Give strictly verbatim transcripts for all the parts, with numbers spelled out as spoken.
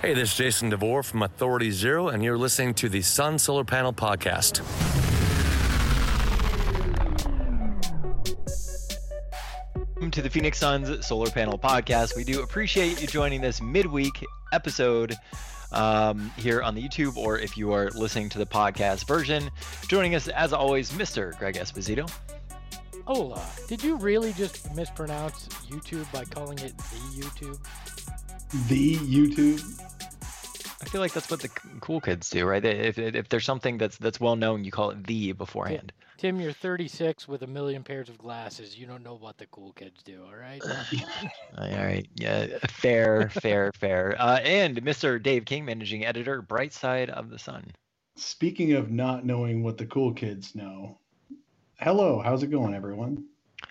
Hey, this is Jason DeVore from Authority Zero, and you're listening to the Sun Solar Panel Podcast. Welcome to the Phoenix Suns Solar Panel Podcast. We do appreciate you joining this midweek episode um, here on the YouTube, or if you are listening to the podcast version. Joining us, as always, Mister Greg Esposito. Hola. Did you really just mispronounce YouTube by calling it the YouTube? The YouTube? I feel like that's what the cool kids do, right? If if there's something that's that's well known, you call it the beforehand. Tim, you're thirty-six with a million pairs of glasses. You don't know what the cool kids do, all right? All right. Yeah, fair, fair, fair. Uh, and Mister Dave King, managing editor, Bright Side of the Sun. Speaking of not knowing what the cool kids know, hello, how's it going, everyone?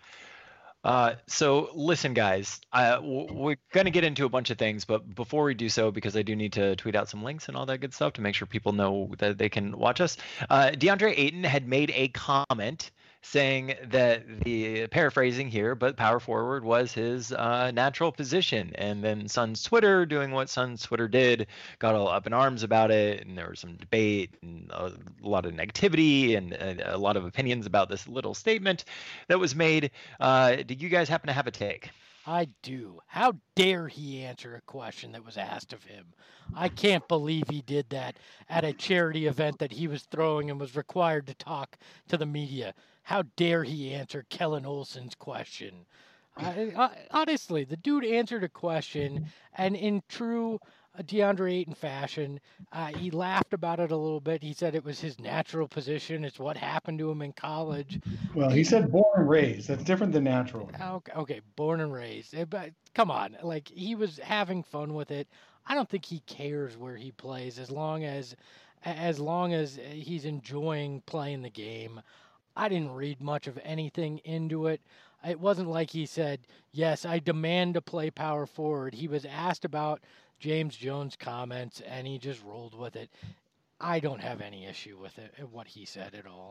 Uh, so listen, guys, uh, we're going to get into a bunch of things, but before we do so, because I do need to tweet out some links and all that good stuff to make sure people know that they can watch us. Uh, DeAndre Ayton had made a comment saying that, the paraphrasing here, but power forward was his uh, natural position. And then Suns Twitter, doing what Suns Twitter did, got all up in arms about it. And there was some debate and a lot of negativity and a, a lot of opinions about this little statement that was made. Uh, did you guys happen to have a take? I do. How dare he answer a question that was asked of him? I can't believe he did that at a charity event that he was throwing and was required to talk to the media. How dare he answer Kellen Olson's question? I, I, honestly, the dude answered a question, and in true DeAndre Ayton fashion, uh, he laughed about it a little bit. He said it was his natural position. It's what happened to him in college. Well, he said born and raised. That's different than natural. Okay, okay, born and raised. But come on, like, he was having fun with it. I don't think he cares where he plays as long as as long as he's enjoying playing the game. I didn't read much of anything into it. It wasn't like he said, yes, I demand to play power forward. He was asked about James Jones' comments, and he just rolled with it. I don't have any issue with it, what he said at all.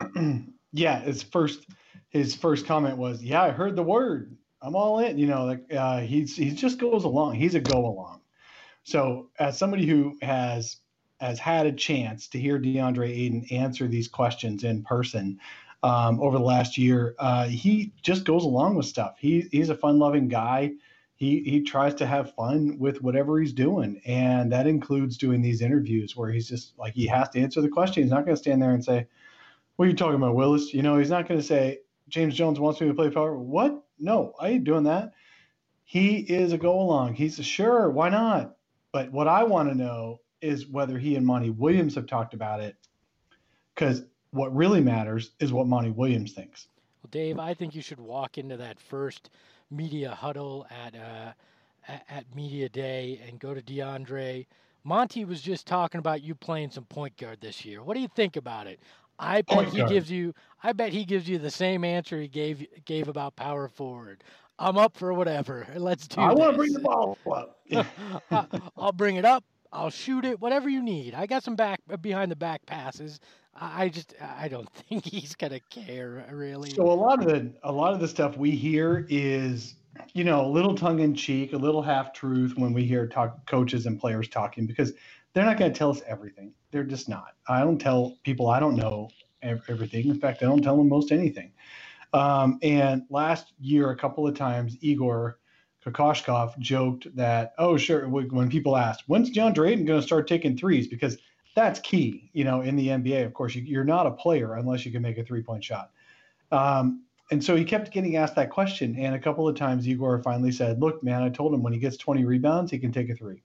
Yeah, his first his first comment was, yeah, I heard the word. I'm all in. You know, like uh, he's he just goes along. He's a go along. So as somebody who has has had a chance to hear DeAndre Ayton answer these questions in person um, over the last year, uh, he just goes along with stuff. He he's a fun-loving guy. He he tries to have fun with whatever he's doing, and that includes doing these interviews where he's just like, he has to answer the question. He's not going to stand there and say, "What are you talking about, Willis?" You know, he's not going to say, "James Jones wants me to play power." What? No, I ain't doing that. He is a go along. He's a sure, why not? But what I want to know is whether he and Monty Williams have talked about it, because what really matters is what Monty Williams thinks. Well, Dave, I think you should walk into that first media huddle at uh, at, at Media Day and go to DeAndre. Monty was just talking about you playing some point guard this year. What do you think about it? I bet Point he guard. gives you. I bet he gives you the same answer he gave gave about power forward. I'm up for whatever. Let's do I this. want to bring the ball up. I'll bring it up. I'll shoot it. Whatever you need. I got some back behind the back passes. I I just I don't think he's gonna care really. So a lot of the a lot of the stuff we hear is, you know, a little tongue in cheek, a little half truth when we hear talk coaches and players talking, because they're not going to tell us everything. They're just not. I don't tell people I don't know ev- everything. In fact, I don't tell them most anything. Um, and last year, a couple of times, Igor Kokoshkov joked that, oh, sure, when people asked, when's DeAndre Ayton going to start taking threes? Because that's key, you know, in the N B A. Of course, you, you're not a player unless you can make a three-point shot. Um, and so he kept getting asked that question. And a couple of times, Igor finally said, look, man, I told him when he gets twenty rebounds, he can take a three.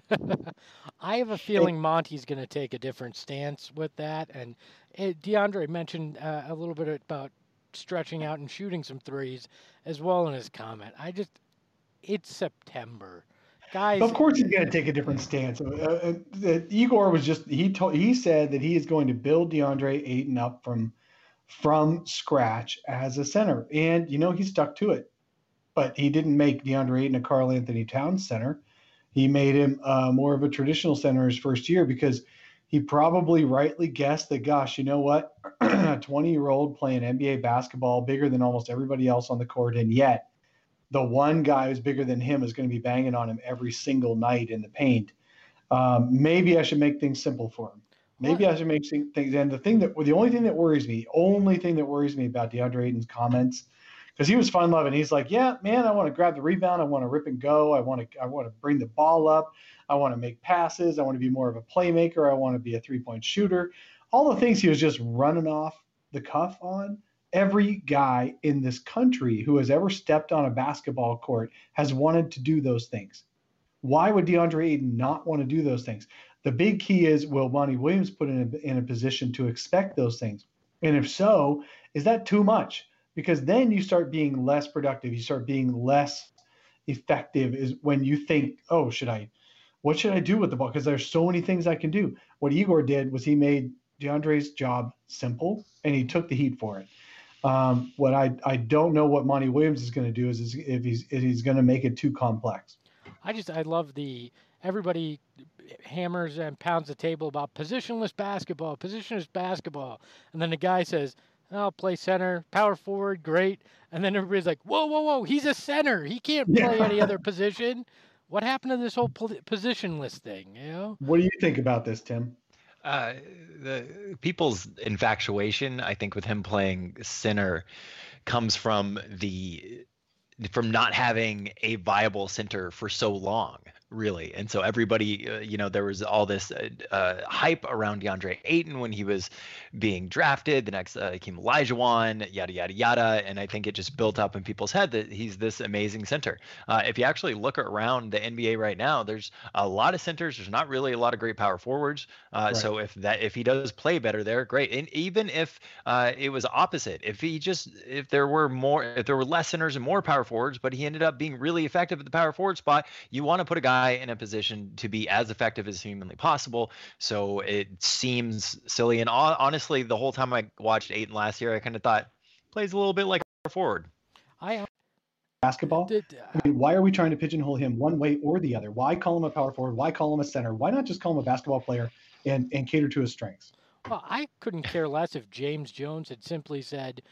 I have a feeling Monty's going to take a different stance with that. And it, DeAndre mentioned uh, a little bit about stretching out and shooting some threes as well in his comment. I just, it's September. Guys, of course he's going to take a different stance. Uh, uh, Igor was just, he told, he said that he is going to build DeAndre Ayton up from, from scratch as a center. And, you know, he stuck to it. But he didn't make DeAndre Ayton a Karl Anthony Towns center. He made him uh, more of a traditional center his first year, because he probably rightly guessed that, gosh, you know what, a twenty-year-old playing N B A basketball, bigger than almost everybody else on the court, and yet the one guy who's bigger than him is going to be banging on him every single night in the paint. Um, maybe I should make things simple for him. Maybe What? I should make things. And the thing that, the only thing that worries me, only thing that worries me about DeAndre Ayton's comments, because he was fun loving. He's like, yeah, man, I want to grab the rebound. I want to rip and go. I want to, I want to bring the ball up. I want to make passes. I want to be more of a playmaker. I want to be a three point shooter. All the things he was just running off the cuff on. Every guy in this country who has ever stepped on a basketball court has wanted to do those things. Why would DeAndre Ayton not want to do those things? The big key is, will Monty Williams put in a, in a position to expect those things? And if so, is that too much? Because then you start being less productive. You start being less effective is when you think, oh, should I, what should I do with the ball? Because there's so many things I can do. What Igor did was he made DeAndre's job simple, and he took the heat for it. Um, what I, I don't know what Monty Williams is going to do is, is if he's if he's going to make it too complex. I just I love the everybody hammers and pounds the table about positionless basketball, positionless basketball, and then the guy says, "I'll play center, power forward, great," and then everybody's like, "Whoa, whoa, whoa! He's a center. He can't play Yeah. any other position." What happened to this whole positionless thing? You know? What do you think about this, Tim? Uh, the people's infatuation, I think, with him playing center comes from the from not having a viable center for so long, really. And so everybody, uh, you know, there was all this uh, uh, hype around DeAndre Ayton when he was being drafted. The next uh, came Olajuwon, yada, yada, yada. And I think it just built up in people's head that he's this amazing center. Uh, if you actually look around the N B A right now, there's a lot of centers. There's not really a lot of great power forwards. Uh, right. So if that if he does play better there, great. And even if uh, it was opposite, if he just if there were more, if there were less centers and more power forwards, but he ended up being really effective at the power forward spot, you want to put a guy in a position to be as effective as humanly possible. So it seems silly. And honestly, the whole time I watched Ayton last year, I kind of thought plays a little bit like a forward. I basketball. Did, uh, I mean, why are we trying to pigeonhole him one way or the other? Why call him a power forward? Why call him a center? Why not just call him a basketball player and, and cater to his strengths? Well, I couldn't care less if James Jones had simply said,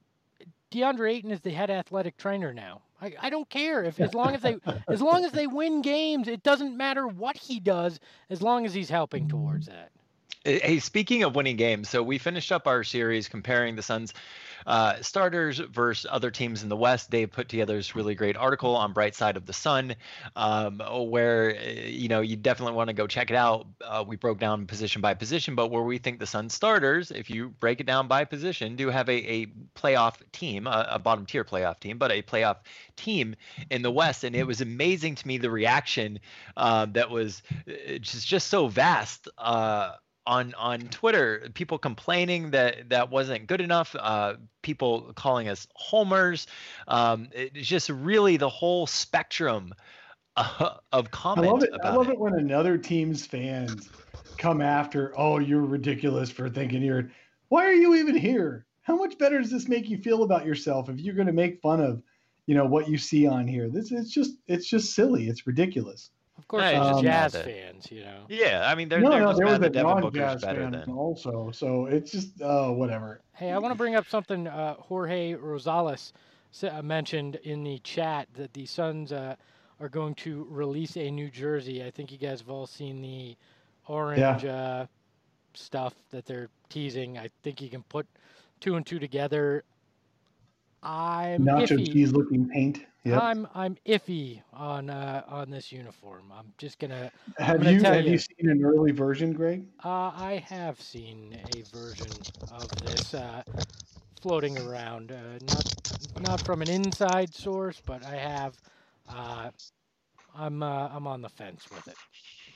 DeAndre Ayton is the head athletic trainer now. I, I don't care if as long as they as long as they win games, it doesn't matter what he does as long as he's helping towards that. Hey, speaking of winning games, so we finished up our series comparing the Suns uh, starters versus other teams in the West. Dave put together this really great article on Bright Side of the Sun, um, where you know you definitely want to go check it out. Uh, we broke down position by position, but where we think the Suns starters, if you break it down by position, do have a, a playoff team, a, a bottom tier playoff team, but a playoff team in the West. And it was amazing to me the reaction uh, that was just just so vast. Uh, on on Twitter, people complaining that that wasn't good enough, uh, people calling us homers. Um, it's just really the whole spectrum uh, of comment I love it. about I love it. it when another team's fans come after, oh, you're ridiculous for thinking you're, why are you even here? How much better does this make you feel about yourself if you're going to make fun of, you know, what you see on here? This it's just it's just silly. It's ridiculous. Of course, Hey, there's um, Jazz that- fans, you know. Yeah, I mean, they're, No, they're no, just there mad was a that Devin Booker's non-Jazz better fan than. also, so it's just oh, whatever. Hey, I want to bring up something uh, Jorge Rosales sa- mentioned in the chat that the Suns uh, are going to release a New Jersey. I think you guys have all seen the orange uh, stuff that they're teasing. I think you can put two and two together. I'm Nacho iffy. cheese looking paint. Yep. I'm I'm iffy on uh, on this uniform. I'm just gonna. Have gonna you tell have you. you seen an early version, Greg? Uh, I have seen a version of this uh, floating around, uh, not not from an inside source, but I have. Uh, I'm uh, I'm on the fence with it.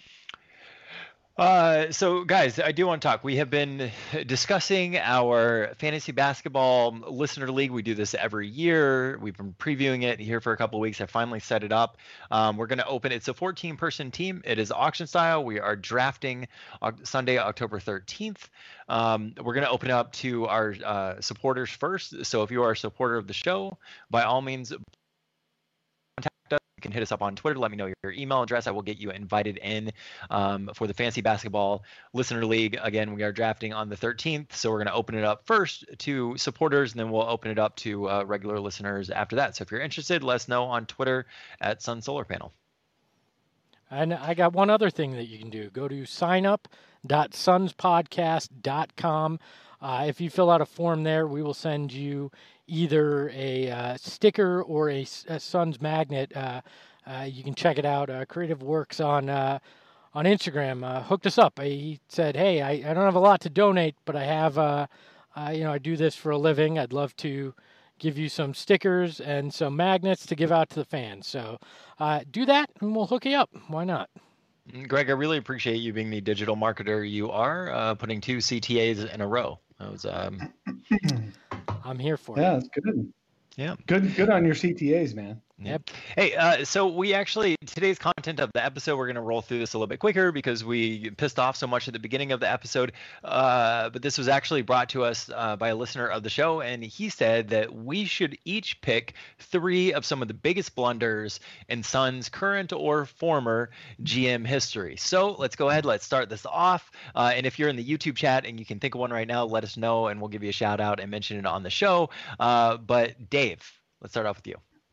Uh, so guys, I do want to talk. We have been discussing our fantasy basketball listener league. We do this every year. We've been previewing it here for a couple of weeks. I finally set it up. Um, we're going to open. It's a fourteen person team. It is auction style. We are drafting Sunday, October thirteenth. Um, we're going to open it up to our uh, supporters first. So if you are a supporter of the show, by all means, you can hit us up on Twitter. Let me know your email address. I will get you invited in um, for the Fantasy Basketball Listener League. Again, we are drafting on the thirteenth, so we're going to open it up first to supporters, and then we'll open it up to uh, regular listeners after that. So if you're interested, let us know on Twitter at Sun Solar Panel. And I got one other thing that you can do. Go to sign up dot suns podcast dot com. Uh, if you fill out a form there, we will send you either a uh, sticker or a, a Suns magnet. Uh, uh, you can check it out. Uh, Creative Works on uh, on Instagram uh, hooked us up. He said, "Hey, I, I don't have a lot to donate, but I have, uh, uh, you know, I do this for a living. I'd love to give you some stickers and some magnets to give out to the fans. So uh, do that, and we'll hook you up. Why not?" Greg, I really appreciate you being the digital marketer you are, uh, putting two C T As in a row. That was, um... I'm here for yeah, it. it's good. Yeah. Good, good on your C T As, man. Yep. Hey, uh, so we actually, today's content of the episode, we're going to roll through this a little bit quicker because we pissed off so much at the beginning of the episode. Uh, but this was actually brought to us uh, by a listener of the show. And he said that we should each pick three of some of the biggest blunders in Suns current or former G M history. So let's go ahead. Let's start this off. Uh, and if you're in the YouTube chat and you can think of one right now, let us know and we'll give you a shout out and mention it on the show. Uh, but Dave, let's start off with you.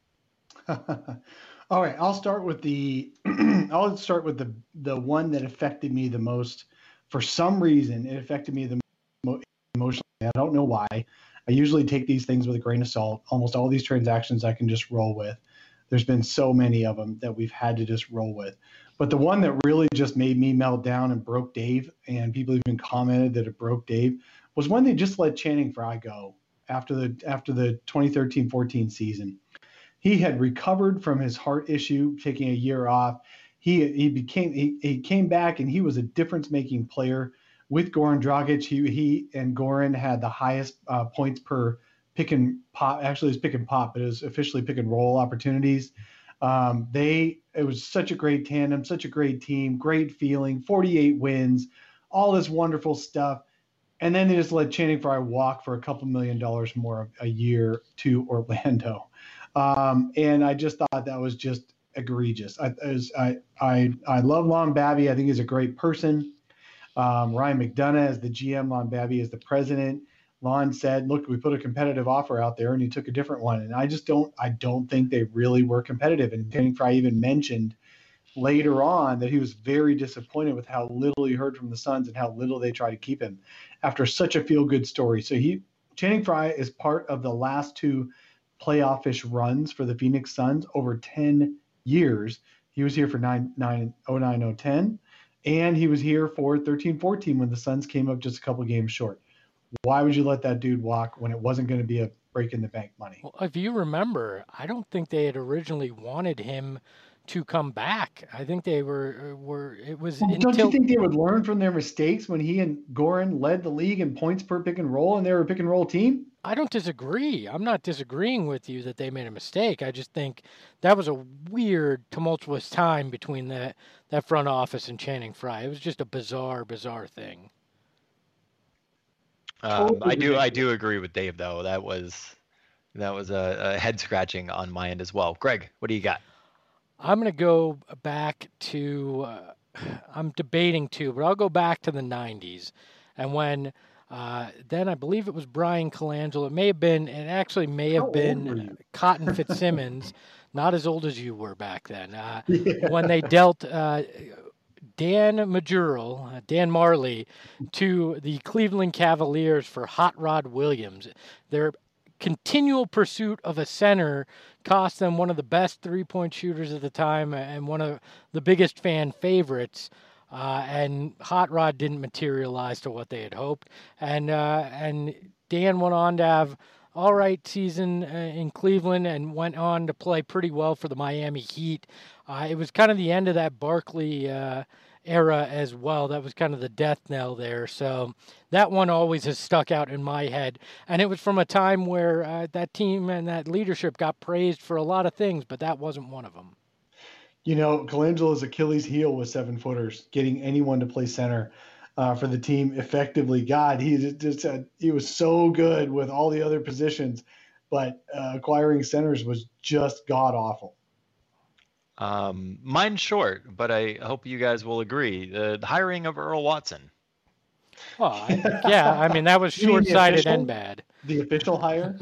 All right, I'll start with the I'll start with the the one that affected me the most. For some reason, it affected me the most emotionally. I don't know why. I usually take these things with a grain of salt. Almost all these transactions I can just roll with. There's been so many of them that we've had to just roll with. But the one that really just made me melt down and broke Dave, and people even commented that it broke Dave, was when they just let Channing Frye go after the after the twenty thirteen fourteen season. He had recovered from his heart issue, taking a year off. He he became he, he came back and he was a difference-making player with Goran Dragic. He he and Goran had the highest uh, points per pick and pop. Actually, it was pick and pop, but it was officially pick and roll opportunities. Um, they it was such a great tandem, such a great team, great feeling. forty-eight wins, all this wonderful stuff. And then they just let Channing Frye walk for a couple million dollars more a year to Orlando. Um, and I just thought that was just egregious. I, was, I, I, I love Lon Babby. I think he's a great person. Um, Ryan McDonough as the G M, Lon Babby as the president. Lon said, look, we put a competitive offer out there and he took a different one. And I just don't, I don't think they really were competitive. And Channing Frye even mentioned later on that he was very disappointed with how little he heard from the Suns and how little they tried to keep him after such a feel-good story. So he, Channing Frye is part of the last two playoff-ish runs for the Phoenix Suns over ten years. He was here for nine, nine, oh nine, oh ten, and he was here for thirteen fourteen when the Suns came up just a couple games short. Why would you let that dude walk when it wasn't going to be a break in the bank money? Well, if you remember, I don't think they had originally wanted him to come back. I think they were were it was well, until... Don't you think they would learn from their mistakes when he and Goran led the league in points per pick and roll and they were a pick and roll team? I don't disagree. I'm not disagreeing with you that they made a mistake. I just think that was a weird, tumultuous time between that that front office and Channing Frye. It was just a bizarre, bizarre thing. Um, I do, I do agree with Dave though. That was that was a, a head scratching on my end as well. Greg, what do you got? I'm going to go back to. Uh, I'm debating too, but I'll go back to the nineties, and when. Uh, then I believe it was Brian Colangelo. It may have been, it actually may have How been Cotton Fitzsimmons, not as old as you were back then, uh, yeah. when they dealt uh, Dan Majurel, uh, Dan Marley, to the Cleveland Cavaliers for Hot Rod Williams. Their continual pursuit of a center cost them one of the best three-point shooters at the time and one of the biggest fan favorites. Uh, and Hot Rod didn't materialize to what they had hoped. And uh, and Dan went on to have all right season uh, in Cleveland and went on to play pretty well for the Miami Heat. Uh, it was kind of the end of that Barkley uh, era as well. That was kind of the death knell there. So that one always has stuck out in my head. And it was from a time where uh, that team and that leadership got praised for a lot of things, but that wasn't one of them. You know, Colangelo's Achilles heel was seven footers, getting anyone to play center uh, for the team effectively. God, he just uh, he was so good with all the other positions, but uh, acquiring centers was just god awful. Um, mine's short, but I hope you guys will agree. The, the hiring of Earl Watson. Well, I, yeah, I mean that was short-sighted and bad. The official hire,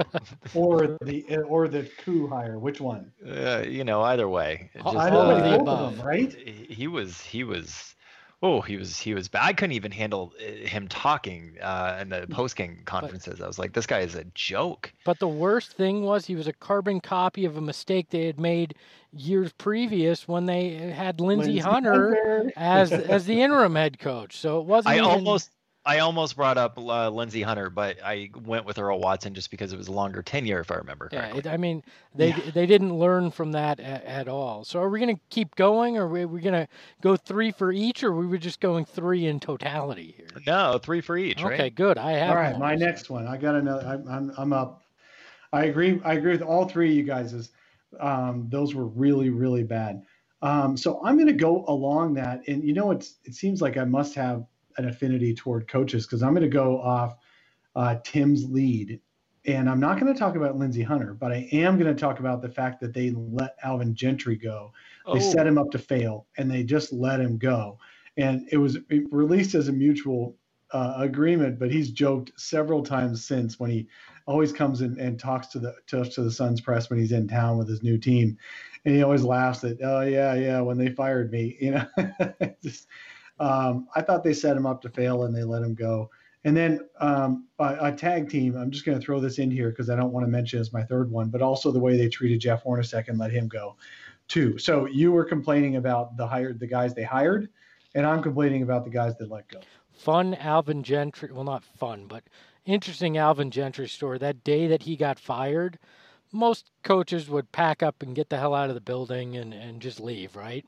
or the or the coup hire? Which one? Uh, you know, either way. It All- just, I know all of they the uh, both above. of them, right? he he was he was oh he was he was bad. I couldn't even handle uh, him talking uh, in the post game conferences. I was like, this guy is a joke. But the worst thing was he was a carbon copy of a mistake they had made years previous when they had Lindsey Lindsey Hunter Hunter. as as the interim head coach. So it wasn't I even, almost I almost brought up uh, Lindsey Hunter, but I went with Earl Watson just because it was a longer tenure, if I remember Yeah, correctly. it, I mean, they Yeah. they didn't learn from that at, at all. So are we going to keep going, or are we, we going to go three for each, or we were just going three in totality here? No, three for each, Okay, right? good. I have. All right, more, my so- next one. I got another. I'm I'm, I'm up. I agree. I agree with all three of you guys. Is um, those were really really bad. Um, so I'm going to go along that, and you know, it's it seems like I must have an affinity toward coaches because I'm going to go off uh, Tim's lead, and I'm not going to talk about Lindsey Hunter, but I am going to talk about the fact that they let Alvin Gentry go. They Oh. set him up to fail, and they just let him go, and it was released as a mutual uh, agreement. But he's joked several times since when he always comes in and talks to the to, to the Suns press when he's in town with his new team, and he always laughs at, oh yeah, yeah, when they fired me, you know. Just, um, I thought they set him up to fail and they let him go. And then um, a, a tag team. I'm just going to throw this in here because I don't want to mention it as my third one, but also the way they treated Jeff Hornacek and let him go, too. So you were complaining about the hired the guys they hired, and I'm complaining about the guys they let go. Fun Alvin Gentry. Well, not fun, but interesting Alvin Gentry story. That day that he got fired, most coaches would pack up and get the hell out of the building and, and just leave, right?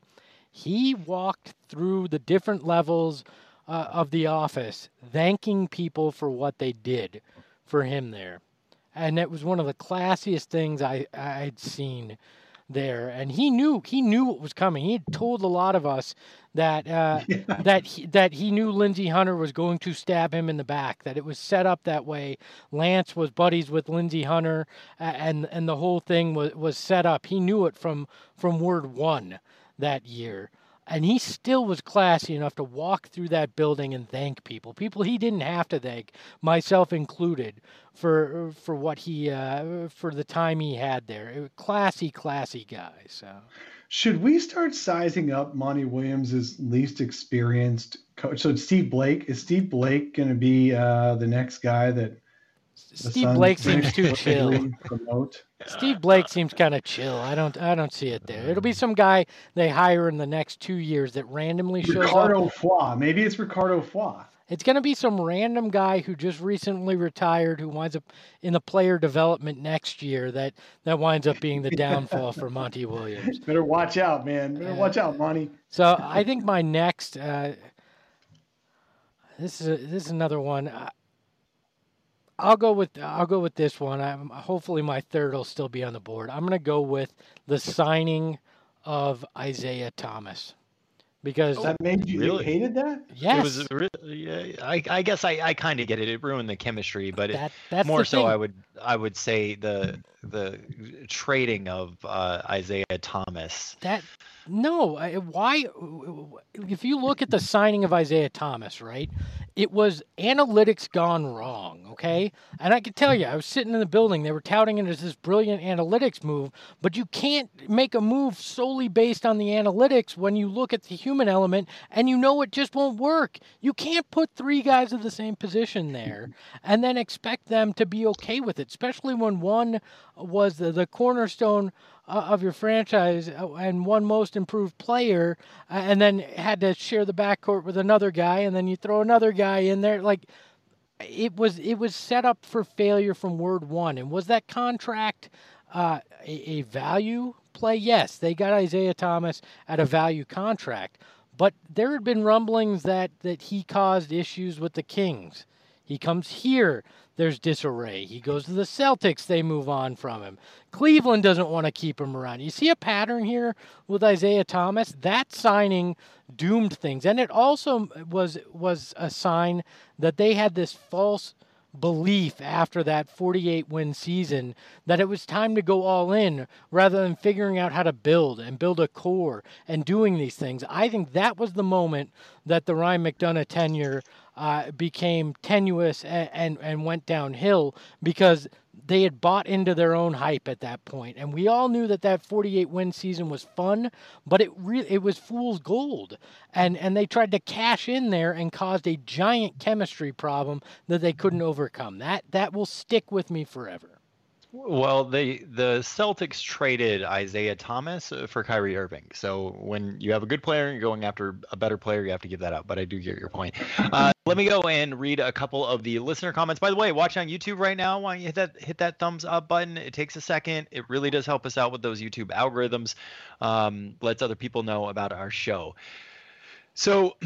He walked through the different levels uh, of the office, thanking people for what they did for him there. And it was one of the classiest things I, I'd seen there. And he knew he knew what was coming. He had told a lot of us that uh, Yeah. that he, that he knew Lindsey Hunter was going to stab him in the back. That it was set up that way. Lance was buddies with Lindsey Hunter, uh, and and the whole thing was was set up. He knew it from from word one that year. And he still was classy enough to walk through that building and thank people. People he didn't have to thank, myself included, for for what he uh, for the time he had there. It was classy, classy guy. So Should we start sizing up Monty Williams' least experienced coach? So Steve Blake, is Steve Blake going to be uh, the next guy that the Steve Suns Blake seems too inexplicably chill. promote? Steve Blake seems kind of chill. I don't I don't see it there. It'll be some guy they hire in the next two years that randomly shows up. Ricardo Foy. Maybe it's Ricardo Foy. It's going to be some random guy who just recently retired who winds up in the player development next year that, that winds up being the downfall for Monty Williams. Better watch out, man. Better watch out, Monty. So I think my next, uh, this is a, this is another one. I, I'll go with I'll go with this one. I'm, hopefully my third will still be on the board. I'm going to go with the signing of Isaiah Thomas because That made you Really? hated that? yes, It was re- yeah, I, I guess I, I kind of get it. It ruined the chemistry, but it, that that's more the so thing. I would I would say the the trading of uh, Isaiah Thomas. That no, I- why? If you look at the signing of Isaiah Thomas, right, it was analytics gone wrong. Okay, and I can tell you, I was sitting in the building. They were touting it as this brilliant analytics move, but you can't make a move solely based on the analytics when you look at the human element and you know it just won't work. You can't put three guys of the same position there and then expect them to be okay with it, especially when one was the, the cornerstone uh, of your franchise uh, and one most improved player, uh, and then had to share the backcourt with another guy, and then you throw another guy in there. Like it was, it was set up for failure from word one. And was that contract uh, a, a value play? Yes, they got Isaiah Thomas at a value contract, but there had been rumblings that that he caused issues with the Kings. He comes here, there's disarray. He goes to the Celtics, they move on from him. Cleveland doesn't want to keep him around. You see a pattern here with Isaiah Thomas? That signing doomed things. And it also was was a sign that they had this false belief after that forty-eight win season that it was time to go all in rather than figuring out how to build and build a core and doing these things. I think that was the moment that the Ryan McDonough tenure uh, became tenuous and, and, and went downhill because they had bought into their own hype at that point. And we all knew that that forty-eight win season was fun, but it re- it was fool's gold. And, and they tried to cash in there and caused a giant chemistry problem that they couldn't overcome. That, that will stick with me forever. Well, they the Celtics traded Isaiah Thomas for Kyrie Irving. So when you have a good player and you're going after a better player, you have to give that up. But I do get your point. Uh, let me go and read a couple of the listener comments. By the way, watching on YouTube right now, why don't you hit that hit that thumbs up button? It takes a second. It really does help us out with those YouTube algorithms. Um, lets other people know about our show. So.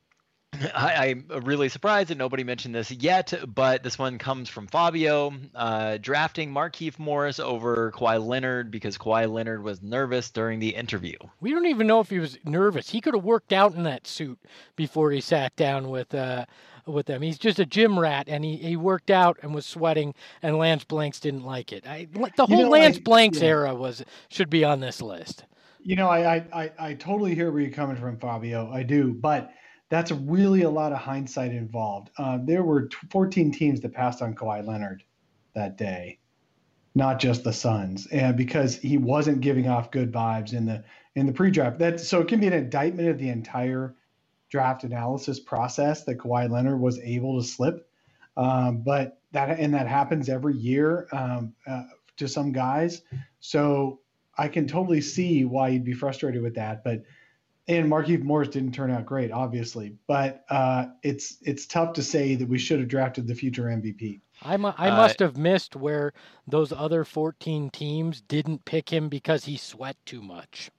I, I'm really surprised that nobody mentioned this yet, but this one comes from Fabio. Uh, drafting Markieff Morris over Kawhi Leonard because Kawhi Leonard was nervous during the interview. We don't even know if he was nervous. He could have worked out in that suit before he sat down with uh, with them. He's just a gym rat, and he, he worked out and was sweating, and Lance Blanks didn't like it. I, the whole You know, Lance I- Blanks yeah. era was should be on this list. You know, I, I, I, I totally hear where you're coming from, Fabio. I do, but that's really a lot of hindsight involved. Uh, there were t- fourteen teams that passed on Kawhi Leonard that day, not just the Suns, and because he wasn't giving off good vibes in the in the pre-draft. That so it can be an indictment of the entire draft analysis process that Kawhi Leonard was able to slip. Um, but that and that happens every year um, uh, to some guys. So I can totally see why you'd be frustrated with that, but. And Markieff Morris didn't turn out great, obviously, but uh, it's it's tough to say that we should have drafted the future M V P. I, mu- I Uh, must have missed where those other fourteen teams didn't pick him because he sweat too much.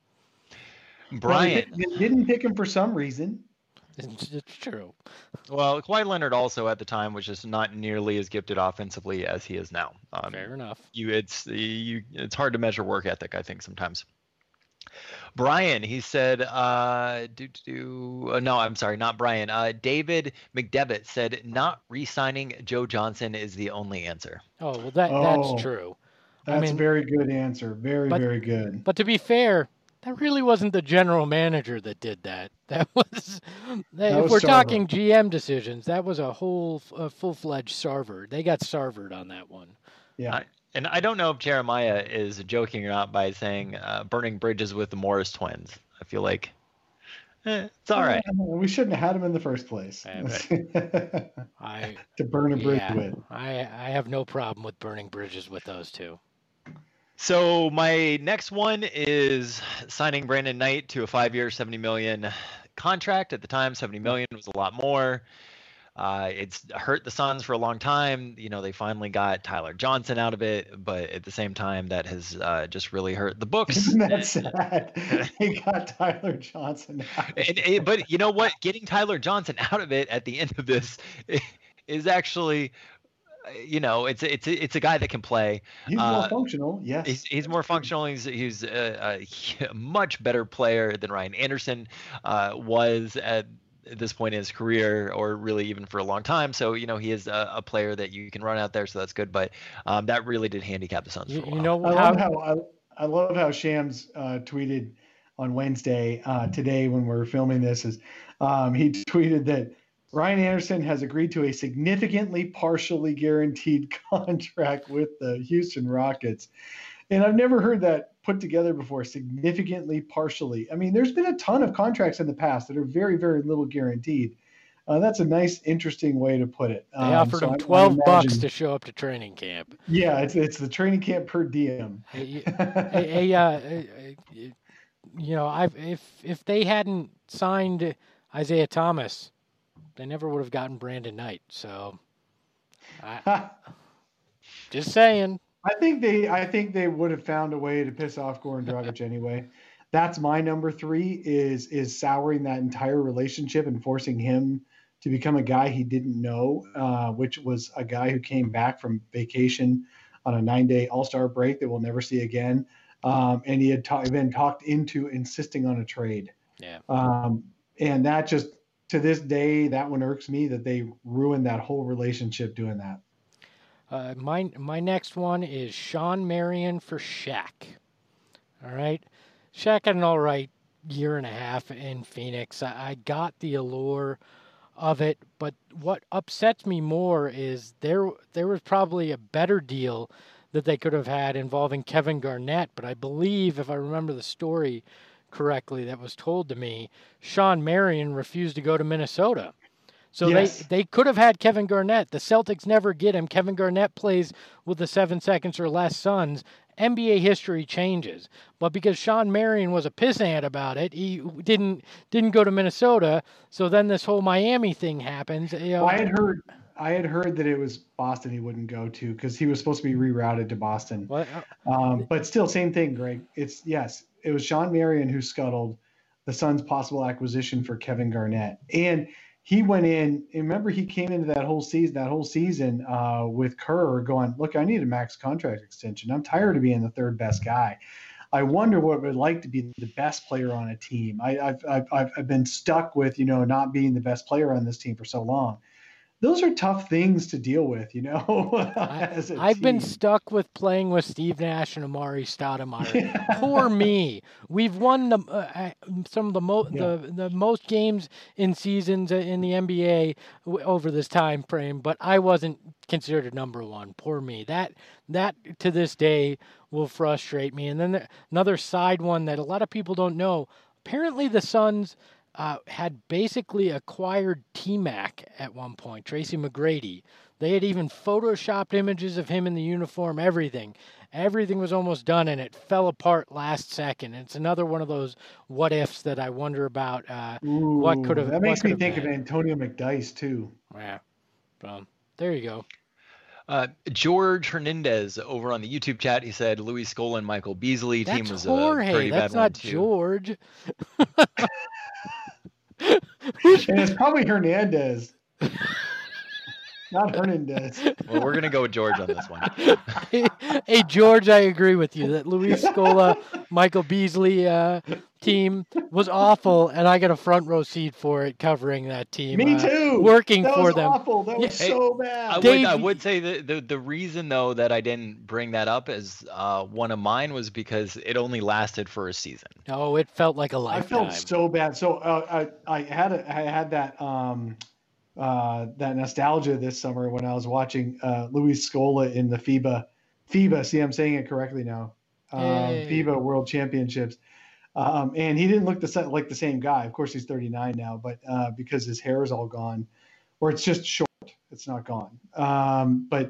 Brian. Well, they, they didn't pick him for some reason. It's, it's true. Well, Kawhi Leonard also at the time was just not nearly as gifted offensively as he is now. Um, Fair enough. You, it's you, it's hard to measure work ethic, I think, sometimes. Brian, he said, uh, do, do, do, uh, no, I'm sorry, not Brian. Uh, David McDevitt said, not re-signing Joe Johnson is the only answer. Oh, well, that Oh, that's true. That's I mean, a very good answer. Very, but- very good. But to be fair, that really wasn't the general manager that did that. That was, that, if was we're Sarver. talking G M decisions, that was a whole a full-fledged Sarver. They got Sarvered on that one. Yeah. I- And I don't know if Jeremiah is joking or not by saying uh, burning bridges with the Morris twins. I feel like eh, it's all right. Uh, we shouldn't have had him in the first place Yeah, I to burn a bridge yeah, with. I I have no problem with burning bridges with those two. So my next one is signing Brandon Knight to a five-year, seventy million dollars contract. At the time, seventy million dollars was a lot more. Uh, it's hurt the Suns for a long time. You know, they finally got Tyler Johnson out of it, but at the same time, that has uh, just really hurt the books. Isn't that sad? They got Tyler Johnson out. And, and- but you know what? Getting Tyler Johnson out of it at the end of this is actually, you know, it's it's it's a guy that can play. He's more Uh, functional, yes. He's, he's more functional. He's he's a, a much better player than Ryan Anderson uh, was at this point in his career, or really even for a long time. So you know he is a, a player that you can run out there, so that's good. But um, that really did handicap the Suns You, for a you while. know I how, love how I, I love how Shams uh, tweeted on Wednesday uh, today when we're filming this is um, he tweeted that Ryan Anderson has agreed to a significantly partially guaranteed contract with the Houston Rockets. And I've never heard that put together before, significantly partially. I mean, there's been a ton of contracts in the past that are very, very little guaranteed. Uh, that's a nice, interesting way to put it. they Um, offered so him I- I twelve bucks imagine- to show up to training camp. Yeah, it's it's the training camp per diem. Hey, hey, hey, uh, uh, you know, I've if if they hadn't signed Isaiah Thomas, they never would have gotten Brandon Knight. So, I, just saying. I think they I think they would have found a way to piss off Goran Dragic anyway. That's my number three is is souring that entire relationship and forcing him to become a guy he didn't know, uh, which was a guy who came back from vacation on a nine-day All-Star break that we'll never see again. Um, and he had ta- been talked into insisting on a trade. Yeah. Um, and that just, to this day, that one irks me that they ruined that whole relationship doing that. Uh, my my next one is Sean Marion for Shaq. All right, Shaq had an all right year and a half in Phoenix. I, I got the allure of it. But what upsets me more is there there was probably a better deal that they could have had involving Kevin Garnett. But I believe, if I remember the story correctly that was told to me, Sean Marion refused to go to Minnesota. So Yes. they, they could have had Kevin Garnett. The Celtics never get him. Kevin Garnett plays with the seven seconds or less Suns. N B A history changes. But because Sean Marion was a pissant about it, he didn't didn't go to Minnesota. So then this whole Miami thing happens. You know, I had heard I had heard that it was Boston he wouldn't go to because he was supposed to be rerouted to Boston. what, Um, but still, same thing, Greg. It's yes, it was Sean Marion who scuttled the Suns' possible acquisition for Kevin Garnett, and he went in. And remember, he came into that whole season, that whole season uh, with Kerr going, "Look, I need a max contract extension. I'm tired of being the third best guy. I wonder what it would like to be the best player on a team. I, I've, I've I've I've been stuck with you know not being the best player on this team for so long." Those are tough things to deal with, you know. as a I've been team. stuck with playing with Steve Nash and Amari Stoudemire. Poor me. We've won the, uh, some of the, mo- Yeah. the the most games in seasons in the N B A w- over this time frame, but I wasn't considered a number one. Poor me. That that to this day will frustrate me. And then the, another side one that a lot of people don't know. Apparently, the Suns. Uh, had basically acquired T-Mac at one point, Tracy McGrady. They had even photoshopped images of him in the uniform, everything. Everything was almost done, and it fell apart last second. It's another one of those what-ifs that I wonder about uh, what could have That makes what me could have think of been. Antonio McDyess, too. Yeah. Um, there you go. Uh, George Hernandez over on the YouTube chat, he said Luis Scola and Michael Beasley team That's was Jorge. a pretty That's bad one not too. George. And it's probably Hernandez. Not Hernandez. Well, we're gonna go with George on this one. Hey, George, I agree with you that Luis Scola, Michael Beasley uh, team was awful, and I got a front row seat for it covering that team. Me uh, too. Working that for was them. awful. That was Hey, so I bad. would, Dave- I would say that the, the reason though that I didn't bring that up as uh, one of mine was because it only lasted for a season. Oh, it felt like a I lifetime. felt so bad. So uh, I I had a, I had that um uh that nostalgia this summer when I was watching uh Luis Scola in the FIBA FIBA. See, I'm saying it correctly now. Um, Hey. FIBA World Championships. Um, and he didn't look the sa- like the same guy. Of course, he's thirty-nine now, but uh, because his hair is all gone, or it's just short, it's not gone. Um, but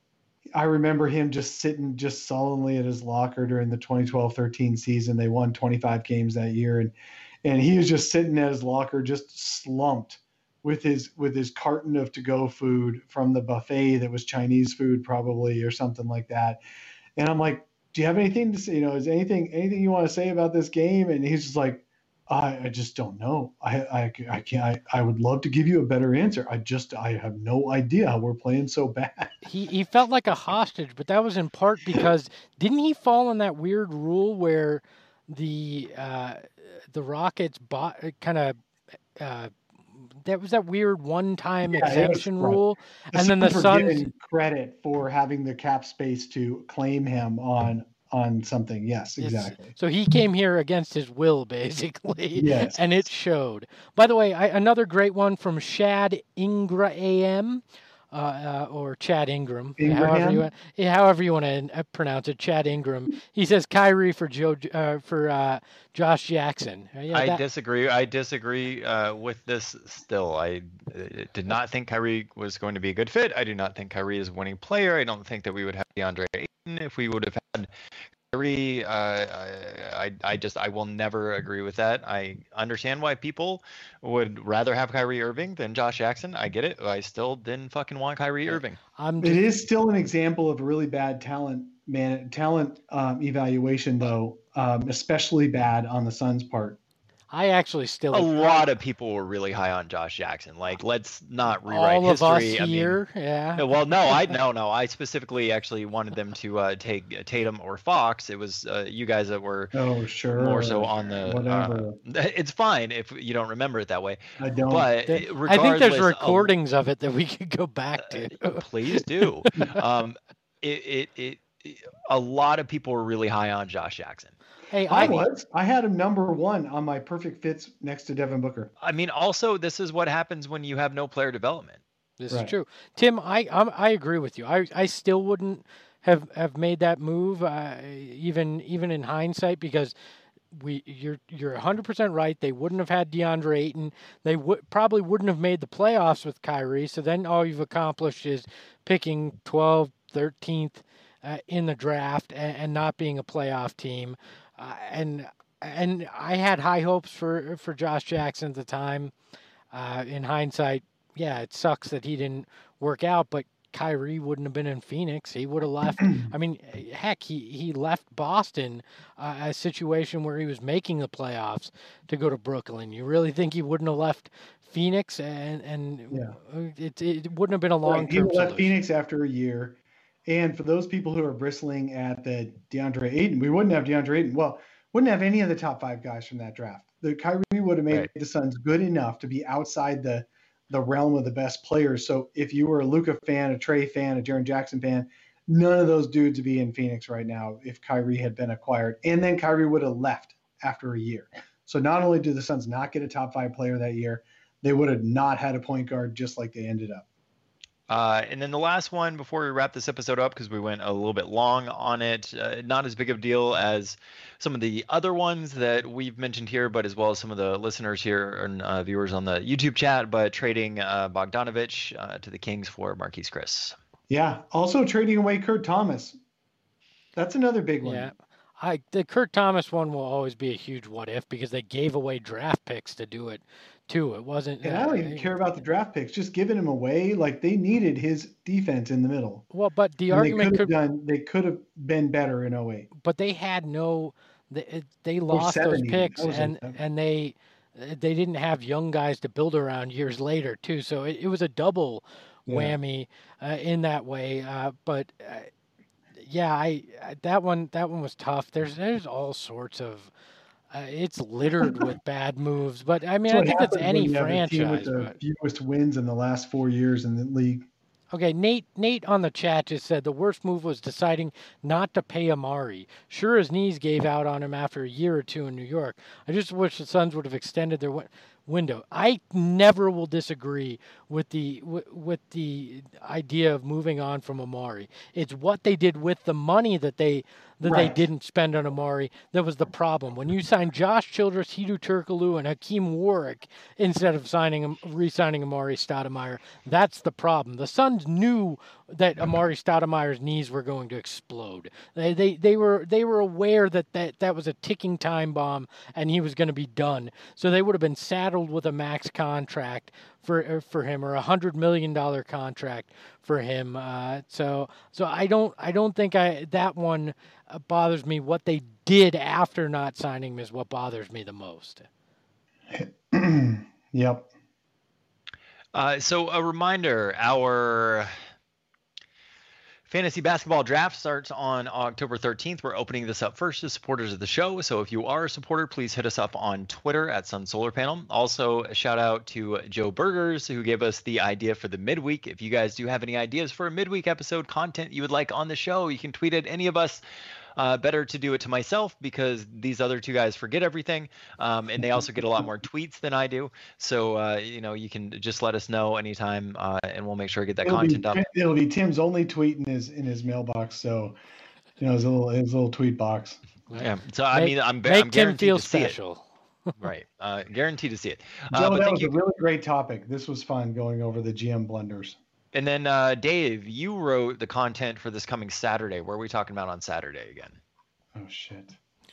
I remember him just sitting just sullenly at his locker during the twenty twelve thirteen season. They won twenty-five games that year, and and he was just sitting at his locker, just slumped with his with his carton of to-go food from the buffet that was Chinese food probably or something like that. And I'm like, do you have anything to say? You know, is anything anything you want to say about this game? And he's just like, I, I just don't know. I, I, I can't. I, I would love to give you a better answer. I just I have no idea how we're playing so bad. He he felt like a hostage, but that was in part because didn't he fall in that weird rule where the uh, the Rockets bought kind of uh, that was that weird one-time Yeah, it was- exemption right. rule, and then the were Suns. getting credit for having the cap space to claim him on on something. Yes, Yes. exactly. So he came here against his will, basically. Yes. And it showed. By the way, I, another great one from Shad Ingra A M, uh, uh, or Chad Ingram, however Ingraham? you want, yeah, however you want to pronounce it, Chad Ingram. He says Kyrie for Joe uh, for uh, Josh Jackson. Uh, yeah, I that- disagree. I disagree uh, with this still. I uh, did not think Kyrie was going to be a good fit. I do not think Kyrie is a winning player. I don't think that we would have DeAndre Ayton if we would have had Kyrie. Uh, I, I, I just, I will never agree with that. I understand why people would rather have Kyrie Irving than Josh Jackson. I get it. I still didn't fucking want Kyrie Irving. I'm It just, is still an example of a really bad talent man talent um, evaluation, though, um, especially bad on the Suns' part. I actually still A lot of people were really high on Josh Jackson. Like, let's not rewrite all of us history. I mean, here. yeah. No, well, no, I no, no. I specifically actually wanted them to uh, take Tatum or Fox. It was uh, you guys that were Oh, sure. more so on the. whatever. Uh, it's fine if you don't remember it that way, I don't. but Th- I think regardless, there's a- recordings of it that we could go back to. Please do. um, it, it it a lot of people were really high on Josh Jackson. Hey, I I was. I had him number one on my perfect fits next to Devin Booker. I mean, also, this is what happens when you have no player development. This Right. is true, Tim. I I'm, I agree with you. I I still wouldn't have have made that move, uh, even even in hindsight, because we you're you're one hundred percent right. They wouldn't have had DeAndre Ayton. They would probably wouldn't have made the playoffs with Kyrie. So then all you've accomplished is picking twelfth, thirteenth uh, in the draft and, and not being a playoff team. Uh, and and I had high hopes for for Josh Jackson at the time. Uh, in hindsight, yeah, it sucks that he didn't work out, but Kyrie wouldn't have been in Phoenix. He would have left. I mean, heck, he, he left Boston, uh, a situation where he was making the playoffs, to go to Brooklyn. You really think he wouldn't have left Phoenix? And and Yeah. it, it wouldn't have been a long Right. He term left solution. Phoenix after a year. And for those people who are bristling at the DeAndre Ayton, we wouldn't have DeAndre Ayton. Well, wouldn't have any of the top five guys from that draft. The Kyrie would have made Right. the Suns good enough to be outside the the realm of the best players. So if you were a Luka fan, a Trey fan, a Jaren Jackson fan, none of those dudes would be in Phoenix right now if Kyrie had been acquired. And then Kyrie would have left after a year. So not only did the Suns not get a top five player that year, they would have not had a point guard just like they ended up. Uh, and then the last one before we wrap this episode up, because we went a little bit long on it, uh, not as big of a deal as some of the other ones that we've mentioned here, but as well as some of the listeners here and uh, viewers on the YouTube chat, but trading uh, Bogdanovich uh, to the Kings for Marquise Chris. Yeah. Also trading away Kurt Thomas. That's another big one. Yeah. I the Kurt Thomas one will always be a huge what if, because they gave away draft picks to do it too. It wasn't. And I don't even care about the draft picks. Just giving him away, like they needed his defense in the middle. Well, but the And they argument could have could, done. They could have been better in oh eight. but they had no. They, they lost seven those even. picks, That was and seven. and they they didn't have young guys to build around years later too. So it, it was a double Yeah. whammy uh, in that way. Uh, but uh, yeah, I I- that one that one was tough. There's there's all sorts of. Uh, it's littered with bad moves, but I mean, That's I what think it's happens when any you have a team franchise. with the But, fewest wins in the last four years in the league. okay, Nate. Nate on the chat just said the worst move was deciding not to pay Amari. Sure, his knees gave out on him after a year or two in New York. I just wish the Suns would have extended their win- window. I never will disagree with the with, with the idea of moving on from Amari. It's what they did with the money that they that Right. they didn't spend on Amari that was the problem. When you signed Josh Childress, Hedo Turkoglu, and Hakeem Warwick instead of signing him, re-signing Amari Stoudemire, that's the problem. The Suns knew that Amari Stoudemire's knees were going to explode. They they, they were they were aware that, that that was a ticking time bomb and he was going to be done. So they would have been saddled with a max contract for for him, or a hundred million dollar contract for him. Uh, so so I don't I don't think I that one uh, bothers me. What they did after not signing him is what bothers me the most. Yep. Uh, so a reminder, our fantasy basketball draft starts on October thirteenth. We're opening this up first to supporters of the show. So if you are a supporter, please hit us up on Twitter at Sun Solar Panel. Also, a shout out to Joe Burgers, who gave us the idea for the midweek. If you guys do have any ideas for a midweek episode content you would like on the show, you can tweet at any of us. Uh, better to do it to myself because these other two guys forget everything, um, and they also get a lot more tweets than I do. So uh, you know, you can just let us know anytime, uh, and we'll make sure I get that It'll content be, up. It'll be Tim's only tweet in his in his mailbox. So, you know, his little his little tweet box. Yeah. So I Make- mean, I'm, Make I'm Tim guaranteed feel to see it. special. Right. Uh, guaranteed to see it. Uh, Joe, but that thank was you. a really great topic. This was fun going over the G M blunders. And then uh, Dave, you wrote the content for this coming Saturday. What are we talking about on Saturday again? Oh shit.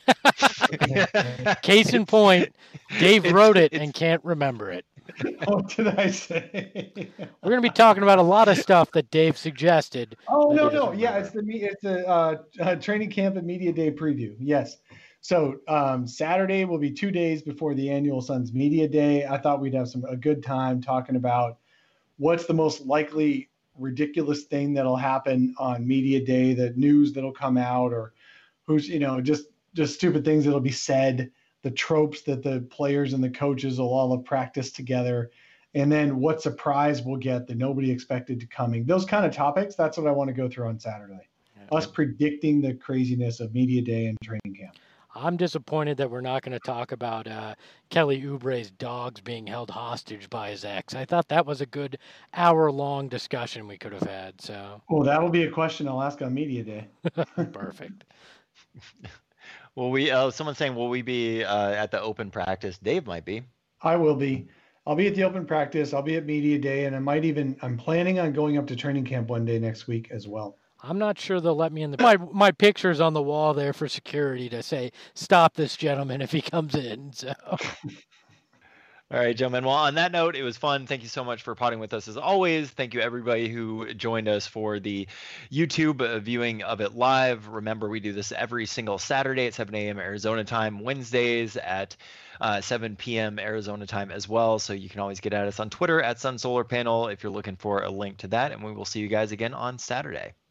Case in point, Dave It's- wrote it it's- and can't remember it. What did I say? We're going to be talking about a lot of stuff that Dave suggested. Oh that no he no doesn't yeah remember. it's the me- it's the uh, uh, training camp and media day preview. Yes. So um, Saturday will be two days before the annual Suns media day. I thought we'd have some a good time talking about what's the most likely ridiculous thing that'll happen on media day, the news that'll come out, or who's you know just just stupid things that'll be said, the tropes that the players and the coaches will all have practiced together, and then what surprise we'll get that nobody expected to coming. Those kind of topics. That's what I want to go through on Saturday. us predicting the craziness of media day and training camp. I'm disappointed that we're not going to talk about uh, Kelly Oubre's dogs being held hostage by his ex. I thought that was a good hour-long discussion we could have had. So, well, that will be a question I'll ask on media day. Perfect. Will we? Uh, someone's saying, will we be uh, at the open practice? Dave might be. I will be. I'll be at the open practice. I'll be at media day, and I might even. I'm planning on going up to training camp one day next week as well. I'm not sure they'll let me in. The my my picture's on the wall there for security to say, stop this gentleman if he comes in. So. All right, gentlemen. Well, on that note, it was fun. Thank you so much for potting with us as always. Thank you, everybody who joined us for the YouTube viewing of it live. Remember, we do this every single Saturday at seven a.m. Arizona time, Wednesdays at uh, seven p.m. Arizona time as well. So you can always get at us on Twitter at Sun Solar Panel if you're looking for a link to that. And we will see you guys again on Saturday.